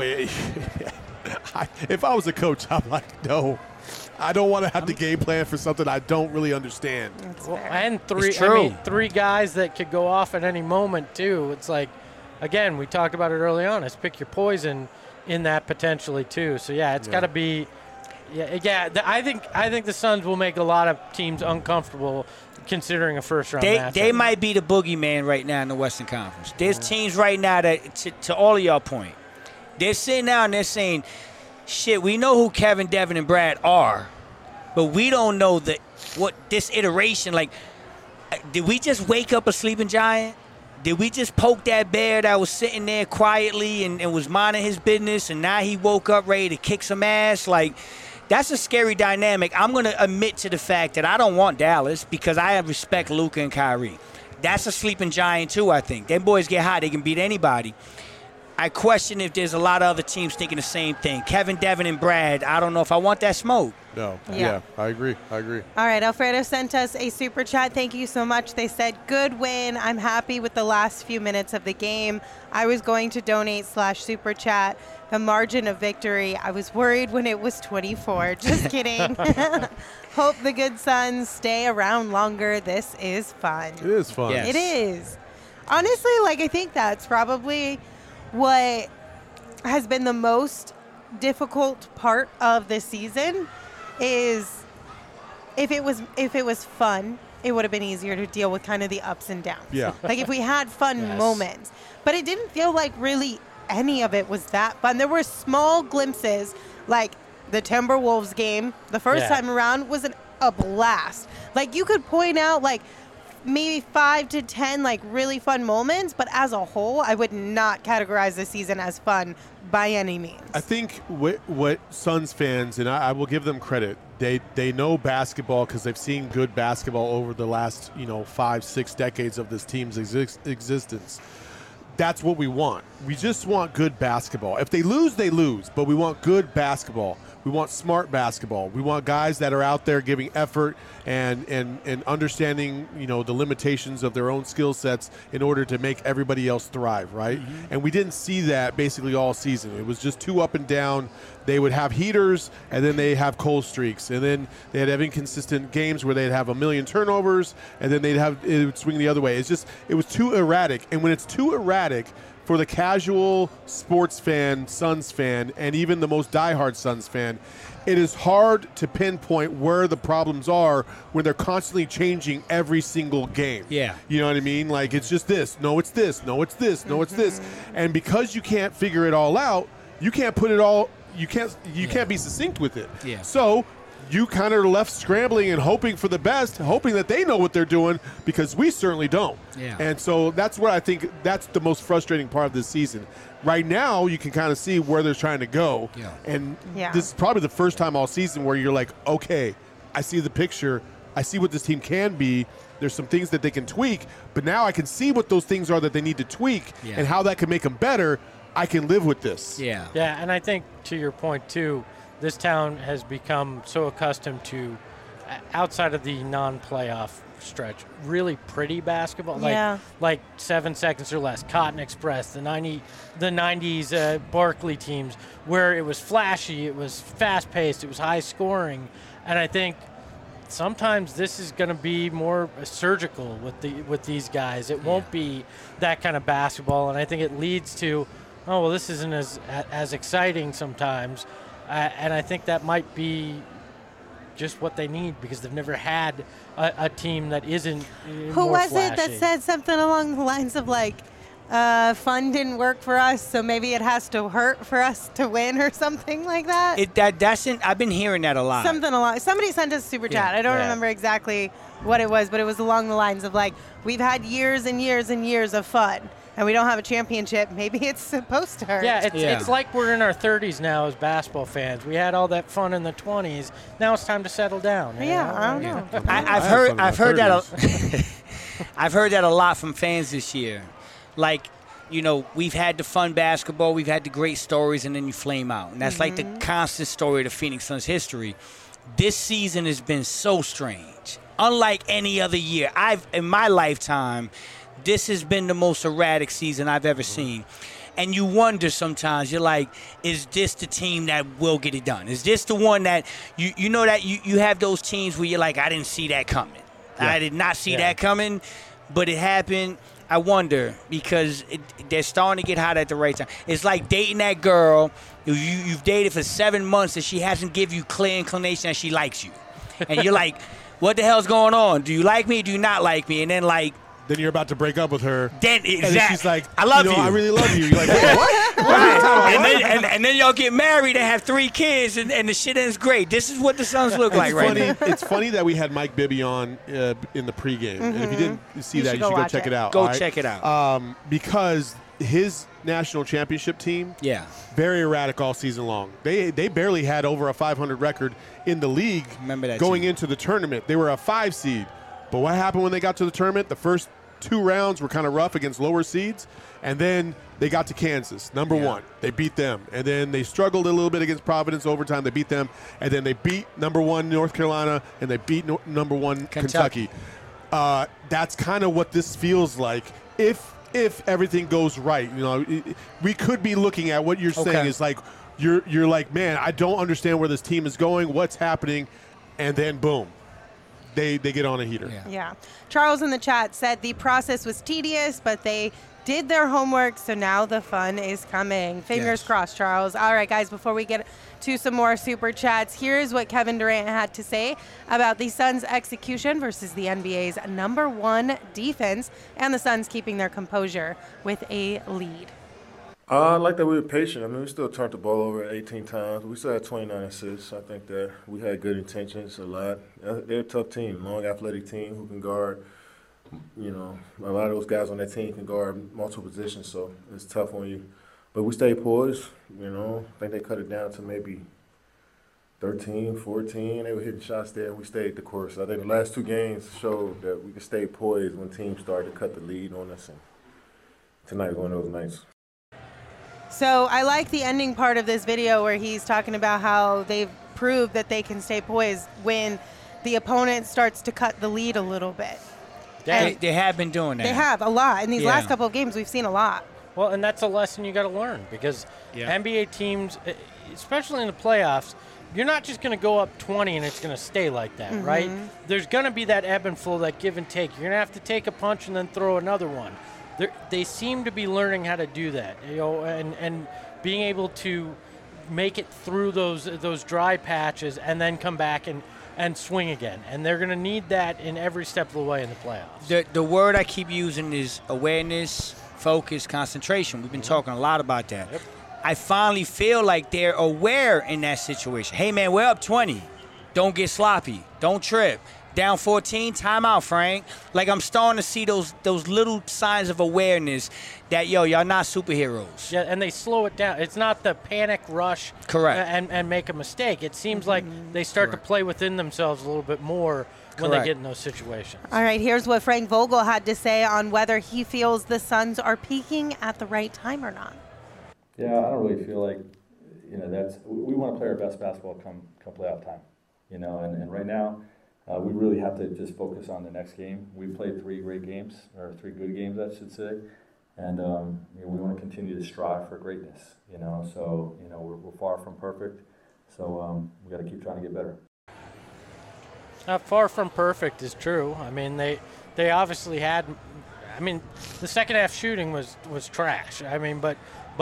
if I was a coach, I'm like, no, I don't want to have to game plan for something I don't really understand. That's Well, fair. and It's true. 3 guys that could go off at any moment too. It's like, again, we talked about it early on. It's pick your poison in that potentially too. So yeah, it's got to be. Yeah. I think the Suns will make a lot of teams uncomfortable considering a first round matchup. They might be the boogeyman right now in the Western Conference. There's teams right now that, to all of y'all point, they're sitting down and they're saying, shit, we know who Kevin, Devin, and Brad are, but we don't know what this iteration, like, did we just wake up a sleeping giant? Did we just poke that bear that was sitting there quietly and was minding his business, and now he woke up ready to kick some ass? Like, that's a scary dynamic. I'm going to admit to the fact that I don't want Dallas because I respect Luka and Kyrie. That's a sleeping giant, too, I think. Them boys get hot. They can beat anybody. I question if there's a lot of other teams thinking the same thing. Kevin, Devin, and Brad, I don't know if I want that smoke. No. Yeah. I agree. All right, Alfredo sent us a super chat. Thank you so much. They said, good win. I'm happy with the last few minutes of the game. I was going to donate /super chat the margin of victory. I was worried when it was 24. Just kidding. Hope the good Suns stay around longer. This is fun. It is fun. Yes. It is. Honestly, I think that's probably what has been the most difficult part of this season is if it was fun, it would have been easier to deal with kind of the ups and downs. Yeah. If we had fun moments. But it didn't feel like really any of it was that fun. There were small glimpses, like the Timberwolves game, the first time around was a blast. You could point out maybe 5 to 10 really fun moments, but as a whole, I would not categorize the season as fun by any means. I think what Suns fans, and I will give them credit, they know basketball because they've seen good basketball over the last 5-6 decades of this team's existence. That's what we want. We just want good basketball. If they lose, they lose, but we want good basketball. We want smart basketball. We want guys that are out there giving effort and understanding, the limitations of their own skill sets in order to make everybody else thrive, right? Mm-hmm. And we didn't see that basically all season. It was just too up and down. They would have heaters, and then they have cold streaks, and then they'd have inconsistent games where they'd have a million turnovers, and then it would swing the other way. It was too erratic, and when it's too erratic, for the casual sports fan, Suns fan, and even the most diehard Suns fan, it is hard to pinpoint where the problems are when they're constantly changing every single game. Yeah. You know what I mean? It's just this. No, it's this. No, it's this. No, it's this. And because you can't figure it all out, you can't put it all – you can't be succinct with it. Yeah. So – you kind of left scrambling and hoping for the best, hoping that they know what they're doing, because we certainly don't. Yeah. And so that's what I think that's the most frustrating part of this season. Right now, you can kind of see where they're trying to go. Yeah. And this is probably the first time all season where you're like, okay, I see the picture. I see what this team can be. There's some things that they can tweak, but now I can see what those things are that they need to tweak and how that can make them better. I can live with this. Yeah. Yeah, and I think to your point, too, this town has become so accustomed to, outside of the non-playoff stretch, really pretty basketball. Like 7 seconds or less. Cotton Express, the 90s Barkley teams, where it was flashy, it was fast-paced, it was high-scoring. And I think sometimes this is going to be more surgical with these guys. It won't be that kind of basketball, and I think it leads to, this isn't as exciting sometimes. And I think that might be just what they need because they've never had a team that isn't Who was flashy. it that said something along the lines of fun didn't work for us, so maybe it has to hurt for us to win or something like that? I've been hearing that a lot. Somebody sent us a super chat. I don't remember exactly what it was, but it was along the lines of we've had years and years and years of fun. And we don't have a championship. Maybe it's supposed to hurt. Yeah, it's like we're in our 30s now as basketball fans. We had all that fun in the 20s. Now it's time to settle down. Yeah, I don't know. I've heard that. I've heard that a lot from fans this year. We've had the fun basketball, we've had the great stories, and then you flame out. And that's like the constant story of the Phoenix Suns history. This season has been so strange. Unlike any other year, in my lifetime, this has been the most erratic season I've ever seen. And you wonder sometimes, you're like, is this the team that will get it done? Is this the one that, you have those teams where you're like, I didn't see that coming. Yeah. I did not see that coming, but it happened. I wonder because they're starting to get hot at the right time. It's like dating that girl you've dated for 7 months and she hasn't given you clear inclination that she likes you. And you're like, what the hell's going on? Do you like me or do you not like me? And then then you're about to break up with her. Exactly. And then she's like, I love you. I really love you. You're like, wait, what? Right. And then y'all get married and have 3 kids, and the shit ends great. This is what the Suns look like right now. It's funny that we had Mike Bibby on in the pregame. And if you didn't see that, you should go check it out. Go check it out. Because his national championship team, very erratic all season long. They barely had over a 500 record in the league going into the tournament. They were a 5 seed. But what happened when they got to the tournament? The first 2 rounds were kind of rough against lower seeds, and then they got to Kansas, number 1. They beat them, and then they struggled a little bit against Providence overtime. They beat them, and then they beat number 1 North Carolina, and they beat number 1 Kentucky. That's kind of what this feels like if everything goes right. You know, we could be looking at what you're saying is like you're like, man, I don't understand where this team is going, what's happening, and then boom. They get on a heater. Yeah. Charles in the chat said the process was tedious, but they did their homework, so now the fun is coming. Fingers crossed, Charles. All right, guys, before we get to some more super chats, here's what Kevin Durant had to say about the Suns' execution versus the NBA's number 1 defense and the Suns keeping their composure with a lead. I like that we were patient. I mean, we still turned the ball over 18 times. We still had 29 assists. I think that we had good intentions a lot. They're a tough team, long athletic team who can guard. You know, a lot of those guys on that team can guard multiple positions, so it's tough on you. But we stayed poised, you know. I think they cut it down to maybe 13, 14. They were hitting shots there, and we stayed the course. I think the last 2 games showed that we could stay poised when teams started to cut the lead on us, and tonight was one of those nights. So I like the ending part of this video where he's talking about how they've proved that they can stay poised when the opponent starts to cut the lead a little bit. They have been doing that. They have a lot. In these last couple of games, we've seen a lot. Well, and that's a lesson you got to learn because NBA teams, especially in the playoffs, you're not just going to go up 20 and it's going to stay like that, right? There's going to be that ebb and flow, that give and take. You're going to have to take a punch and then throw another one. They seem to be learning how to do that, you know, and being able to make it through those dry patches and then come back and swing again. And they're going to need that in every step of the way in the playoffs. The word I keep using is awareness, focus, concentration. We've been talking a lot about that. Yep. I finally feel like they're aware in that situation. Hey, man, we're up 20. Don't get sloppy. Don't trip. Down 14, timeout, Frank. Like, I'm starting to see those little signs of awareness that, y'all not superheroes. Yeah, and they slow it down. It's not the panic rush. Correct. And make a mistake. It seems like they start to play within themselves a little bit more when they get in those situations. All right, here's what Frank Vogel had to say on whether he feels the Suns are peaking at the right time or not. Yeah, I don't really feel like, we want to play our best basketball come playoff time, and right now, we really have to just focus on the next game. We played 3 great games, or 3 good games, I should say, and we want to continue to strive for greatness. So we're far from perfect, so we got to keep trying to get better. Far from perfect is true. I mean, they obviously had. I mean, the second half shooting was trash. I mean, but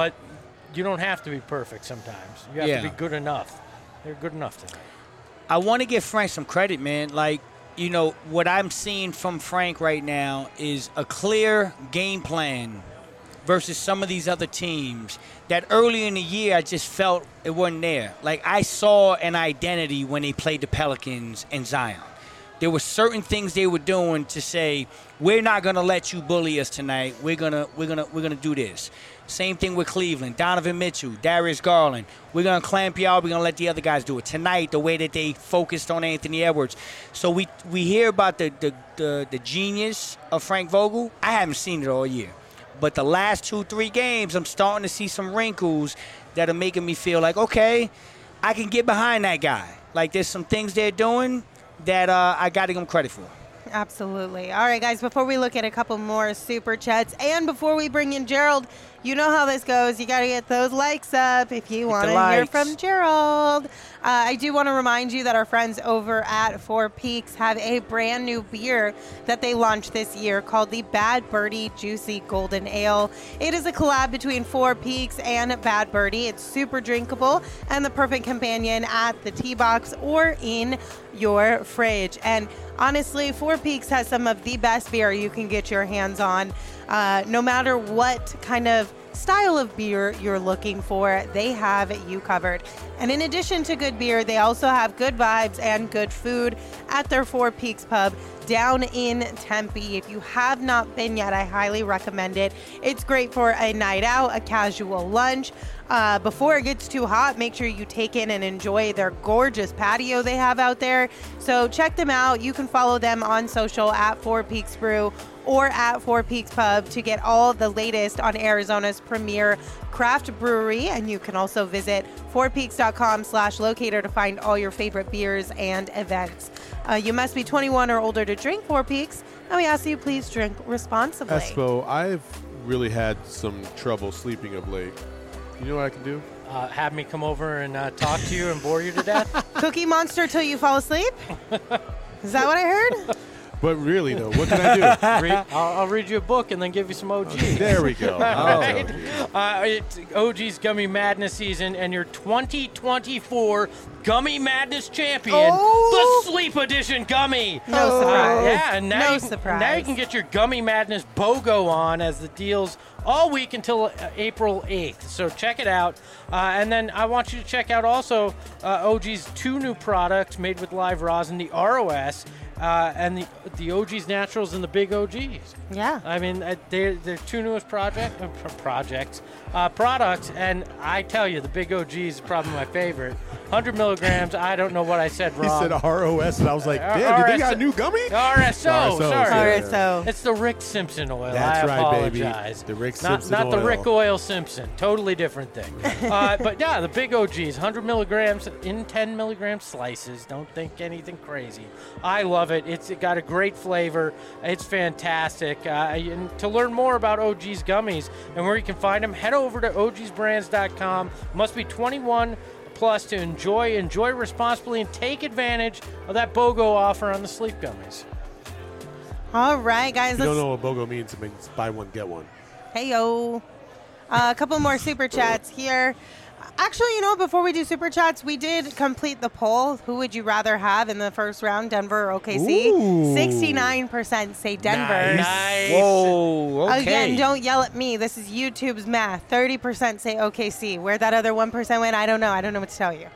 you don't have to be perfect sometimes. You have to be good enough. They're good enough tonight. I want to give Frank some credit, man. Like, what I'm seeing from Frank right now is a clear game plan versus some of these other teams that early in the year I just felt it wasn't there. Like, I saw an identity when they played the Pelicans and Zion. There were certain things they were doing to say, we're not going to let you bully us tonight. We're gonna do this. Same thing with Cleveland. Donovan Mitchell, Darius Garland. We're going to clamp y'all. We're going to let the other guys do it. Tonight, the way that they focused on Anthony Edwards. So we hear about the genius of Frank Vogel. I haven't seen it all year. But the last 2-3 games, I'm starting to see some wrinkles that are making me feel like, okay, I can get behind that guy. Like, there's some things they're doing that I got to give them credit for. Absolutely. All right, guys, before we look at a couple more super chats and before we bring in Gerald, you know how this goes. You got to get those likes up if you want to hear from Gerald. I do want to remind you that our friends over at Four Peaks have a brand new beer that they launched this year called the Bad Birdie Juicy Golden Ale. It is a collab between Four Peaks and Bad Birdie. It's super drinkable and the perfect companion at the tea box or in your fridge. And honestly, Four Peaks has some of the best beer you can get your hands on. No matter what kind of style of beer you're looking for, they have you covered. And in addition to good beer, they also have good vibes and good food at their Four Peaks pub down in Tempe. If you have not been yet, I highly recommend it. It's great for a night out, a casual lunch. Before it gets too hot, make sure you take in and enjoy their gorgeous patio they have out there. So check them out. You can follow them on social at Four Peaks Brew or at Four Peaks Pub to get all the latest on Arizona's premier craft brewery. And you can also visit fourpeaks.com/locator to find all your favorite beers and events. You must be 21 or older to drink Four Peaks, and we ask that you please drink responsibly. Espo, I've really had some trouble sleeping of late. You know what I can do? Have me come over and talk to you and bore you to death? Cookie Monster till you fall asleep? Is that what I heard? But really, though, what can I do? I'll read you a book and then give you some OG. There we go. Right? It's OG's Gummy Madness season, and your 2024 Gummy Madness champion, the Sleep Edition Gummy. No surprise. Yeah, and now, surprise. Now you can get your Gummy Madness BOGO on as the deals all week until April 8th. So check it out. And then I want you to check out also OG's 2 new products made with live rosin, the ROS and the OG's Naturals and the Big OGs. Yeah. I mean, they're 2 newest products, and I tell you, the Big OG is probably my favorite. 100 milligrams. I don't know what I said He wrong. said ROS, and I was like, damn, did they got a new gummy? RSO, sorry. RSO. It's the Rick Simpson oil. That's I right, baby. apologize. The Rick Simpson not the oil. Rick Oil Simpson. Totally different thing. But yeah, the Big OGs, 100 milligrams in 10 milligram slices. Don't think anything crazy. I love it. It's got a great flavor. It's fantastic. And to learn more about OG's gummies and where you can find them, head over to ogsbrands.com. Must be 21 plus to enjoy responsibly, and take advantage of that BOGO offer on the sleep gummies. All right, guys. If you don't know what BOGO means, it means buy one, get one. Hey-yo. A couple more super chats here. Actually, before we do super chats, we did complete the poll. Who would you rather have in the first round, Denver or OKC? Ooh. 69% say Denver. Nice. Whoa, okay. Again, don't yell at me. This is YouTube's math. 30% say OKC. Where that other 1% went, I don't know. I don't know what to tell you.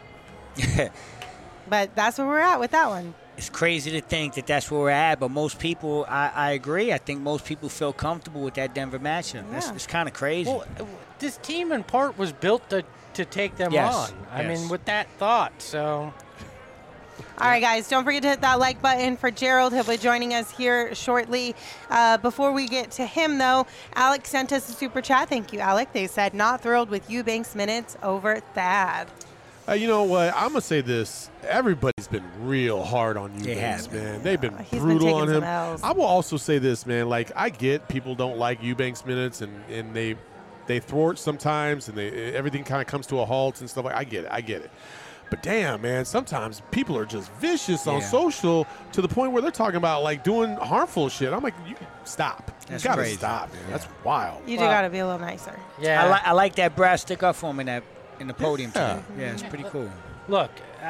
But that's where we're at with that one. It's crazy to think that that's where we're at, but most people, I agree. I think most people feel comfortable with that Denver matchup. Yeah. It's kind of crazy. Well, this team in part was built to take them Yes, on. I yes. mean, with that thought, so... All right, guys, don't forget to hit that like button for Gerald. He'll be joining us here shortly. Before we get to him, though, Alec sent us a super chat. Thank you, Alec. They said, not thrilled with Eubanks minutes over Thad. You know what? I'm going to say this. Everybody's been real hard on Eubanks, man. They've been He's been brutal taking on some him. L's. I will also say this, man. Like, I get people don't like Eubanks minutes, and they thwart sometimes, and everything kind of comes to a halt and stuff. I get it. But damn, man, sometimes people are just vicious on social to the point where they're talking about, like, doing harmful shit. I'm like, you stop. That's you got to crazy. stop, man. That's wild. You do got to be a little nicer. Yeah. I like that brass stick up for him in the podium today. Yeah, it's pretty cool. Look,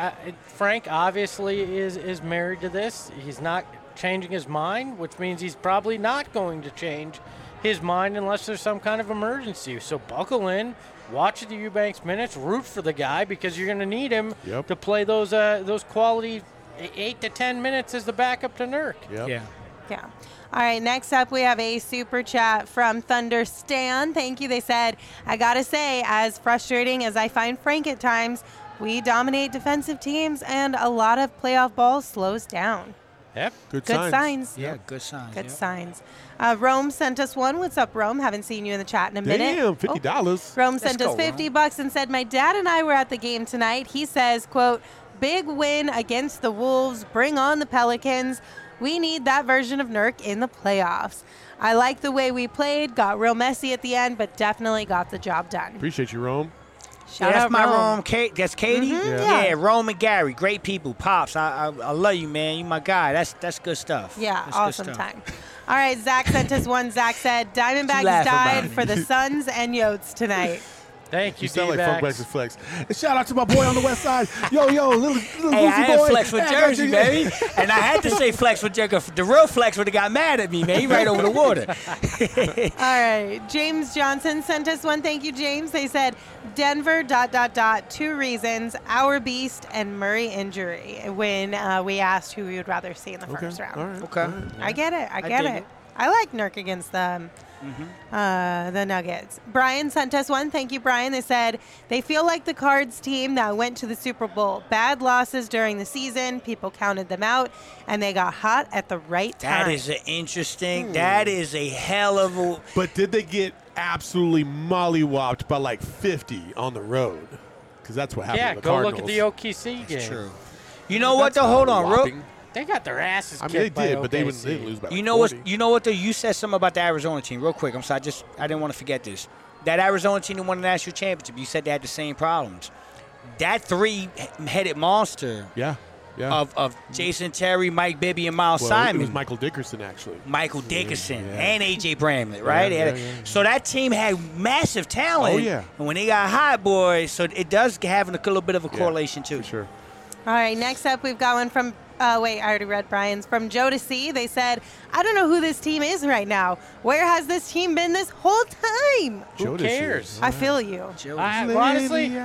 Frank obviously is married to this. He's not changing his mind, which means he's probably not going to change his mind unless there's some kind of emergency. So buckle in, watch the Eubanks minutes, root for the guy because you're going to need him to play those quality 8 to 10 minutes as the backup to Nurk. Yep. Yeah. All right, next up we have a super chat from Thunder Stan. Thank you. They said, I got to say, as frustrating as I find Frank at times, we dominate defensive teams and a lot of playoff ball slows down. Yep. Good signs. Yeah, good signs. Good yeah. signs. Rome sent us one. What's up, Rome? Haven't seen you in the chat in a minute. Damn, $50. Rome sent us go, $50 and said, my dad and I were at the game tonight. He says, quote, big win against the Wolves. Bring on the Pelicans. We need that version of Nurk in the playoffs. I like the way we played. Got real messy at the end, but definitely got the job done. Appreciate you, Rome. Shout that's out my Rome. Rome. That's Katie? Yeah. Yeah, Rome and Gary. Great people. Pops, I love you, man. You my guy. That's good stuff. Yeah, That's good awesome stuff. time. All right, Zach sent us one. Zach said, Diamondbacks laugh about died it. for the Suns and Yotes tonight. Thank you, You sound like D-backs. Funk Black Flex. And shout out to my boy on the west side. Yo, little Hey, I Lucy had boy. flex with Hey, I got Jersey, you. baby. And I had to say flex with Jersey. The real flex would have got mad at me, man. He right over the water. All right, James Johnson sent us one. Thank you, James. They said, Denver, ... 2 reasons, our beast and Murray injury when we asked who we would rather see in the first round. All right. Okay. I get it. I get dig it. it. I like Nurk against the The Nuggets. Brian sent us one. Thank you, Brian. They said they feel like the Cards team that went to the Super Bowl. Bad losses during the season. People counted them out, and they got hot at the right time. That is an interesting. That is a hell of a. But did they get absolutely mollywopped by like 50 on the road? Because that's what happened Yeah, to the go Cardinals. look at the OKC game. True. You know what? Though, hold on, real. Whopping. They got their asses I kicked mean, they by did, but they OKC. didn't lose by You like know 40. what? You know what? Though, you said something about the Arizona team, real quick. I'm sorry, I didn't want to forget this. That Arizona team that won the national championship. You said they had the same problems. That three-headed monster Yeah. of Jason Terry, Mike Bibby, and Miles Well, Simon. it was Michael Dickerson, actually. Michael Dickerson yeah. and A.J. Bramlett, right? Yeah, So that team had massive talent. Oh, yeah. And when they got hot, boys, so it does have a little bit of a correlation, too. For sure. All right, next up, we've got one from, I already read Brian's. From Joe to C. They said, I don't know who this team is right now. Where has this team been this whole time? Who cares? I feel you. Honestly,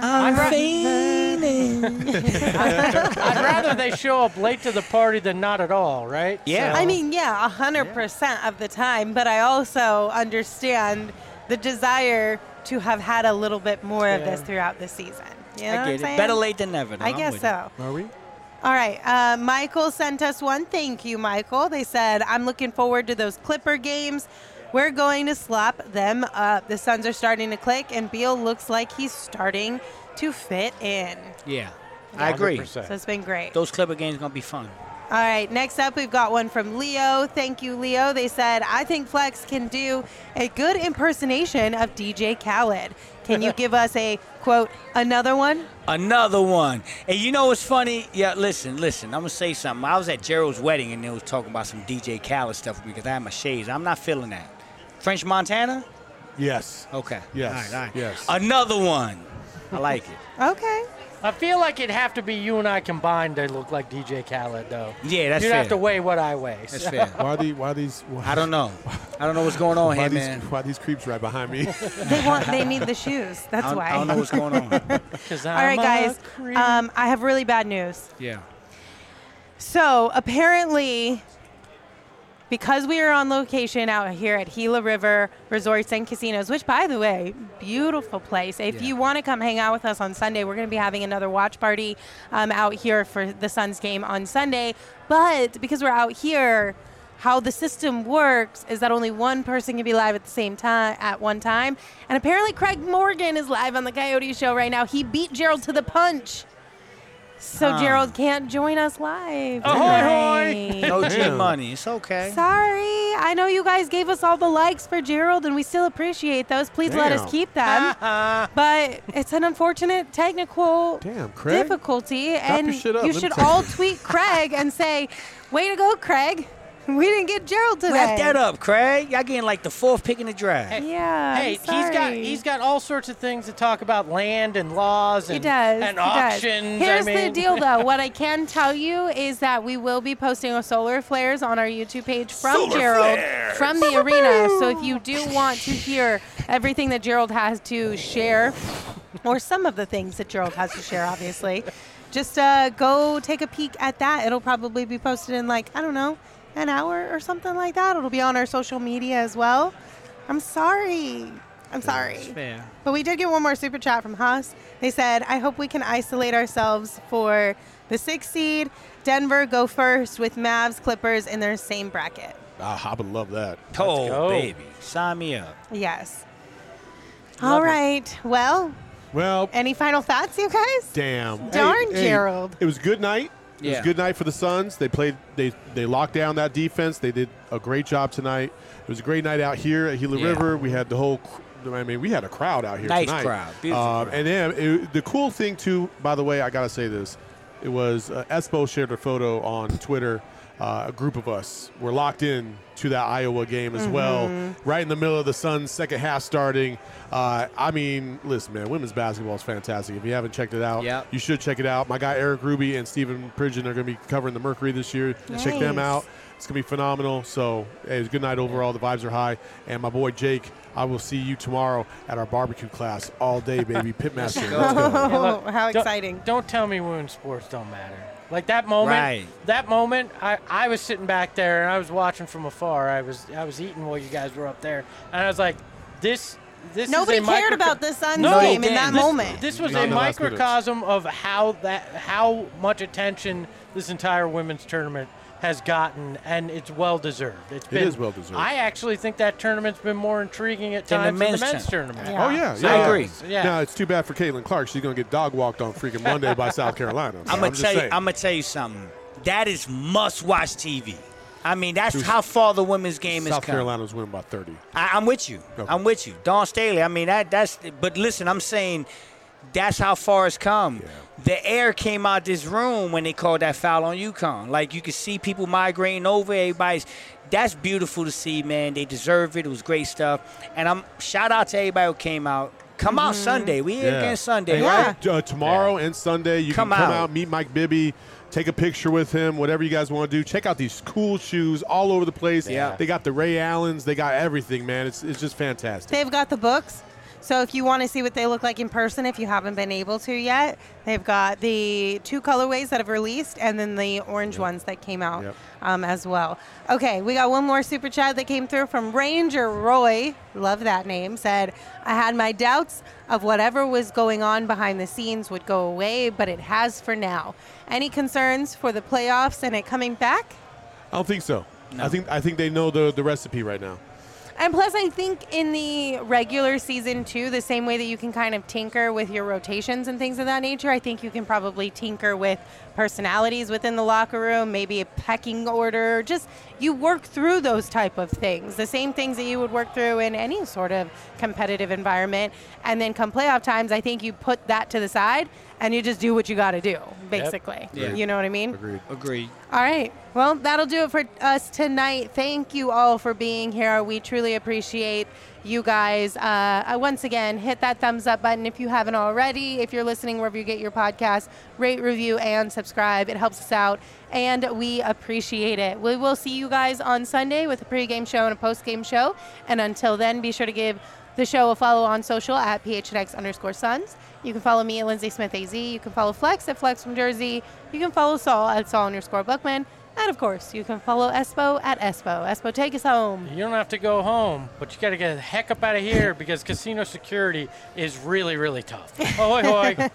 I'd rather they show up late to the party than not at all, right? Yeah. I mean, 100% of the time, but I also understand the desire to have had a little bit more of this throughout the season. You know I what I'm get it. saying? Better late than never. though. I I'm guess with so. Are we? All right. Michael sent us one. Thank you, Michael. They said, I'm looking forward to those Clipper games. We're going to slap them up. The Suns are starting to click, and Beal looks like he's starting to fit in. you. Yeah. I agree. 100%. So it's been great. Those Clipper games going to be fun. All right, next up, we've got one from Leo. Thank you, Leo. They said, I think Flex can do a good impersonation of DJ Khaled. Can you give us a, quote, another one? Another one. And you know what's funny? Yeah, listen. I'm going to say something. I was at Gerald's wedding, and they was talking about some DJ Khaled stuff with me because I had my shades. I'm not feeling that. French Montana? Yes. Okay. Yes. All right. Yes. Another one. I like it. Okay. I feel like it'd have to be you and I combined to look like DJ Khaled, though. Yeah, that's You'd fair. have to weigh what I weigh. That's fair. Why are these? I don't know. I don't know what's going on Why here, are these, man. why are these creeps right behind me? They need the shoes. That's why. I don't know what's going on. All right, guys. I have really bad news. Yeah. So apparently, because we are on location out here at Gila River Resorts and Casinos, which, by the way, beautiful place. If you want to come hang out with us on Sunday, we're going to be having another watch party out here for the Suns game on Sunday. But because we're out here, how the system works is that only one person can be live at the same time at one time. And apparently Craig Morgan is live on the Coyote Show right now. He beat Gerald to the punch. So Gerald can't join us live. Ahoy, tonight. No G money. It's okay. Sorry. I know you guys gave us all the likes for Gerald, and we still appreciate those. Please let us Damn. keep them. But it's an unfortunate technical Damn, Craig. difficulty, your and shit up. you Let me should tell all you. tweet Craig and say, way to go, Craig. We didn't get Gerald today. Wrap that up, Craig. Y'all getting like the fourth pick in the draft. Yeah. Hey, he's got all sorts of things to talk about, land and laws and, He does. and he does. auctions. Here's I the mean, deal, though. What I can tell you is that we will be posting a solar flares on our YouTube page from Gerald from the arena. So if you do want to hear everything that Gerald has to share, or some of the things that Gerald has to share, obviously, just go take a peek at that. It'll probably be posted in, like, I don't know, an hour or something like that. It'll be on our social media as well. I'm sorry. Fair. But we did get one more super chat from Haas. They said, I hope we can isolate ourselves for the 6th seed. Denver go first with Mavs, Clippers in their same bracket. I would love that. Oh, go. baby. Sign me up. Yes. Love All it. right. Well, Well, any final thoughts, you guys? damn. Darn, Gerald. It was a good night. It was Yeah. a good night for the Suns. They played. They locked down that defense. They did a great job tonight. It was a great night out here at Gila Yeah. River. We had the whole. We had a crowd out here Nice tonight. crowd. Beautiful crowd. And then the cool thing too. By the way, I gotta say this. It was Espo shared a photo on Twitter. A group of us were locked in to that Iowa game as well, right in the middle of the Suns' second half starting. Listen, man, women's basketball is fantastic. If you haven't checked it out, Yep. you should check it out. My guy Eric Ruby and Stephen Pridgeon are going to be covering the Mercury this year. Check them Nice. out. It's going to be phenomenal. So, hey, it was a good night overall. The vibes are high. And my boy Jake, I will see you tomorrow at our barbecue class all day, baby. Pitmaster. Let's go. Oh, how Don't- exciting. Don't tell me women's sports don't matter. Like that moment, Right. I was sitting back there and I was watching from afar. I was eating while you guys were up there, and I was like, this Nobody is a cared about the Suns No, game in that this- moment. This was Not a in the last minutes. microcosm of how much attention this entire women's tournament has gotten, and it's well deserved. It is well-deserved. I actually think that tournament's been more intriguing at Than the times than the men's men's tournament. Yeah. Oh, yeah. I agree. Yeah. Now, it's too bad for Caitlin Clark. She's going to get dog walked on freaking Monday by South Carolina. So I'm gonna just tell you. saying. I'm gonna tell you something. That is must-watch TV. I mean, that's how far the women's game has South come. Carolina's winning by 30. I'm with you. Okay. I'm with you. Dawn Staley. I mean, that's. But listen, I'm saying that's how far it's come. The air came out this room when they called that foul on UConn. Like, you could see people migrating over. Everybody's. That's beautiful to see, man. They deserve it. It was great stuff. And I'm shout out to everybody who came out. Come out Sunday. We here again Sunday, Yeah. right? Tomorrow and Sunday, you Come can come out. out, meet Mike Bibby, take a picture with him, whatever you guys want to do. Check out these cool shoes all over the place. Yeah. They got the Ray Allens. They got everything, man. It's just fantastic. They've got the books. So if you want to see what they look like in person, if you haven't been able to yet, they've got the 2 colorways that have released and then the orange ones that came out as well. Okay, we got one more super chat that came through from Ranger Roy. Love that name. Said, I had my doubts of whatever was going on behind the scenes would go away, but it has for now. Any concerns for the playoffs and it coming back? I don't think so. I think they know the recipe right now. And plus, I think in the regular season, too, the same way that you can kind of tinker with your rotations and things of that nature, I think you can probably tinker with personalities within the locker room, maybe a pecking order. Just you work through those type of things, the same things that you would work through in any sort of competitive environment. And then come playoff times, I think you put that to the side and you just do what you got to do, basically. Yeah. You know what I mean? Agreed. All right. Well, that'll do it for us tonight. Thank you all for being here. We truly appreciate you guys. Once again, hit that thumbs up button if you haven't already. If you're listening wherever you get your podcast, rate, review, and subscribe. It helps us out, and we appreciate it. We will see you guys on Sunday with a pregame show and a postgame show. And until then, be sure to give the show a follow on social at PHNX_Suns. You can follow me at Lindsay Smith AZ. You can follow Flex at Flex from Jersey. You can follow Saul at Saul_Bookman. And, of course, you can follow Espo at Espo. Espo, take us home. You don't have to go home, but you got to get the heck up out of here because casino security is really, really tough. Ahoy, hoy.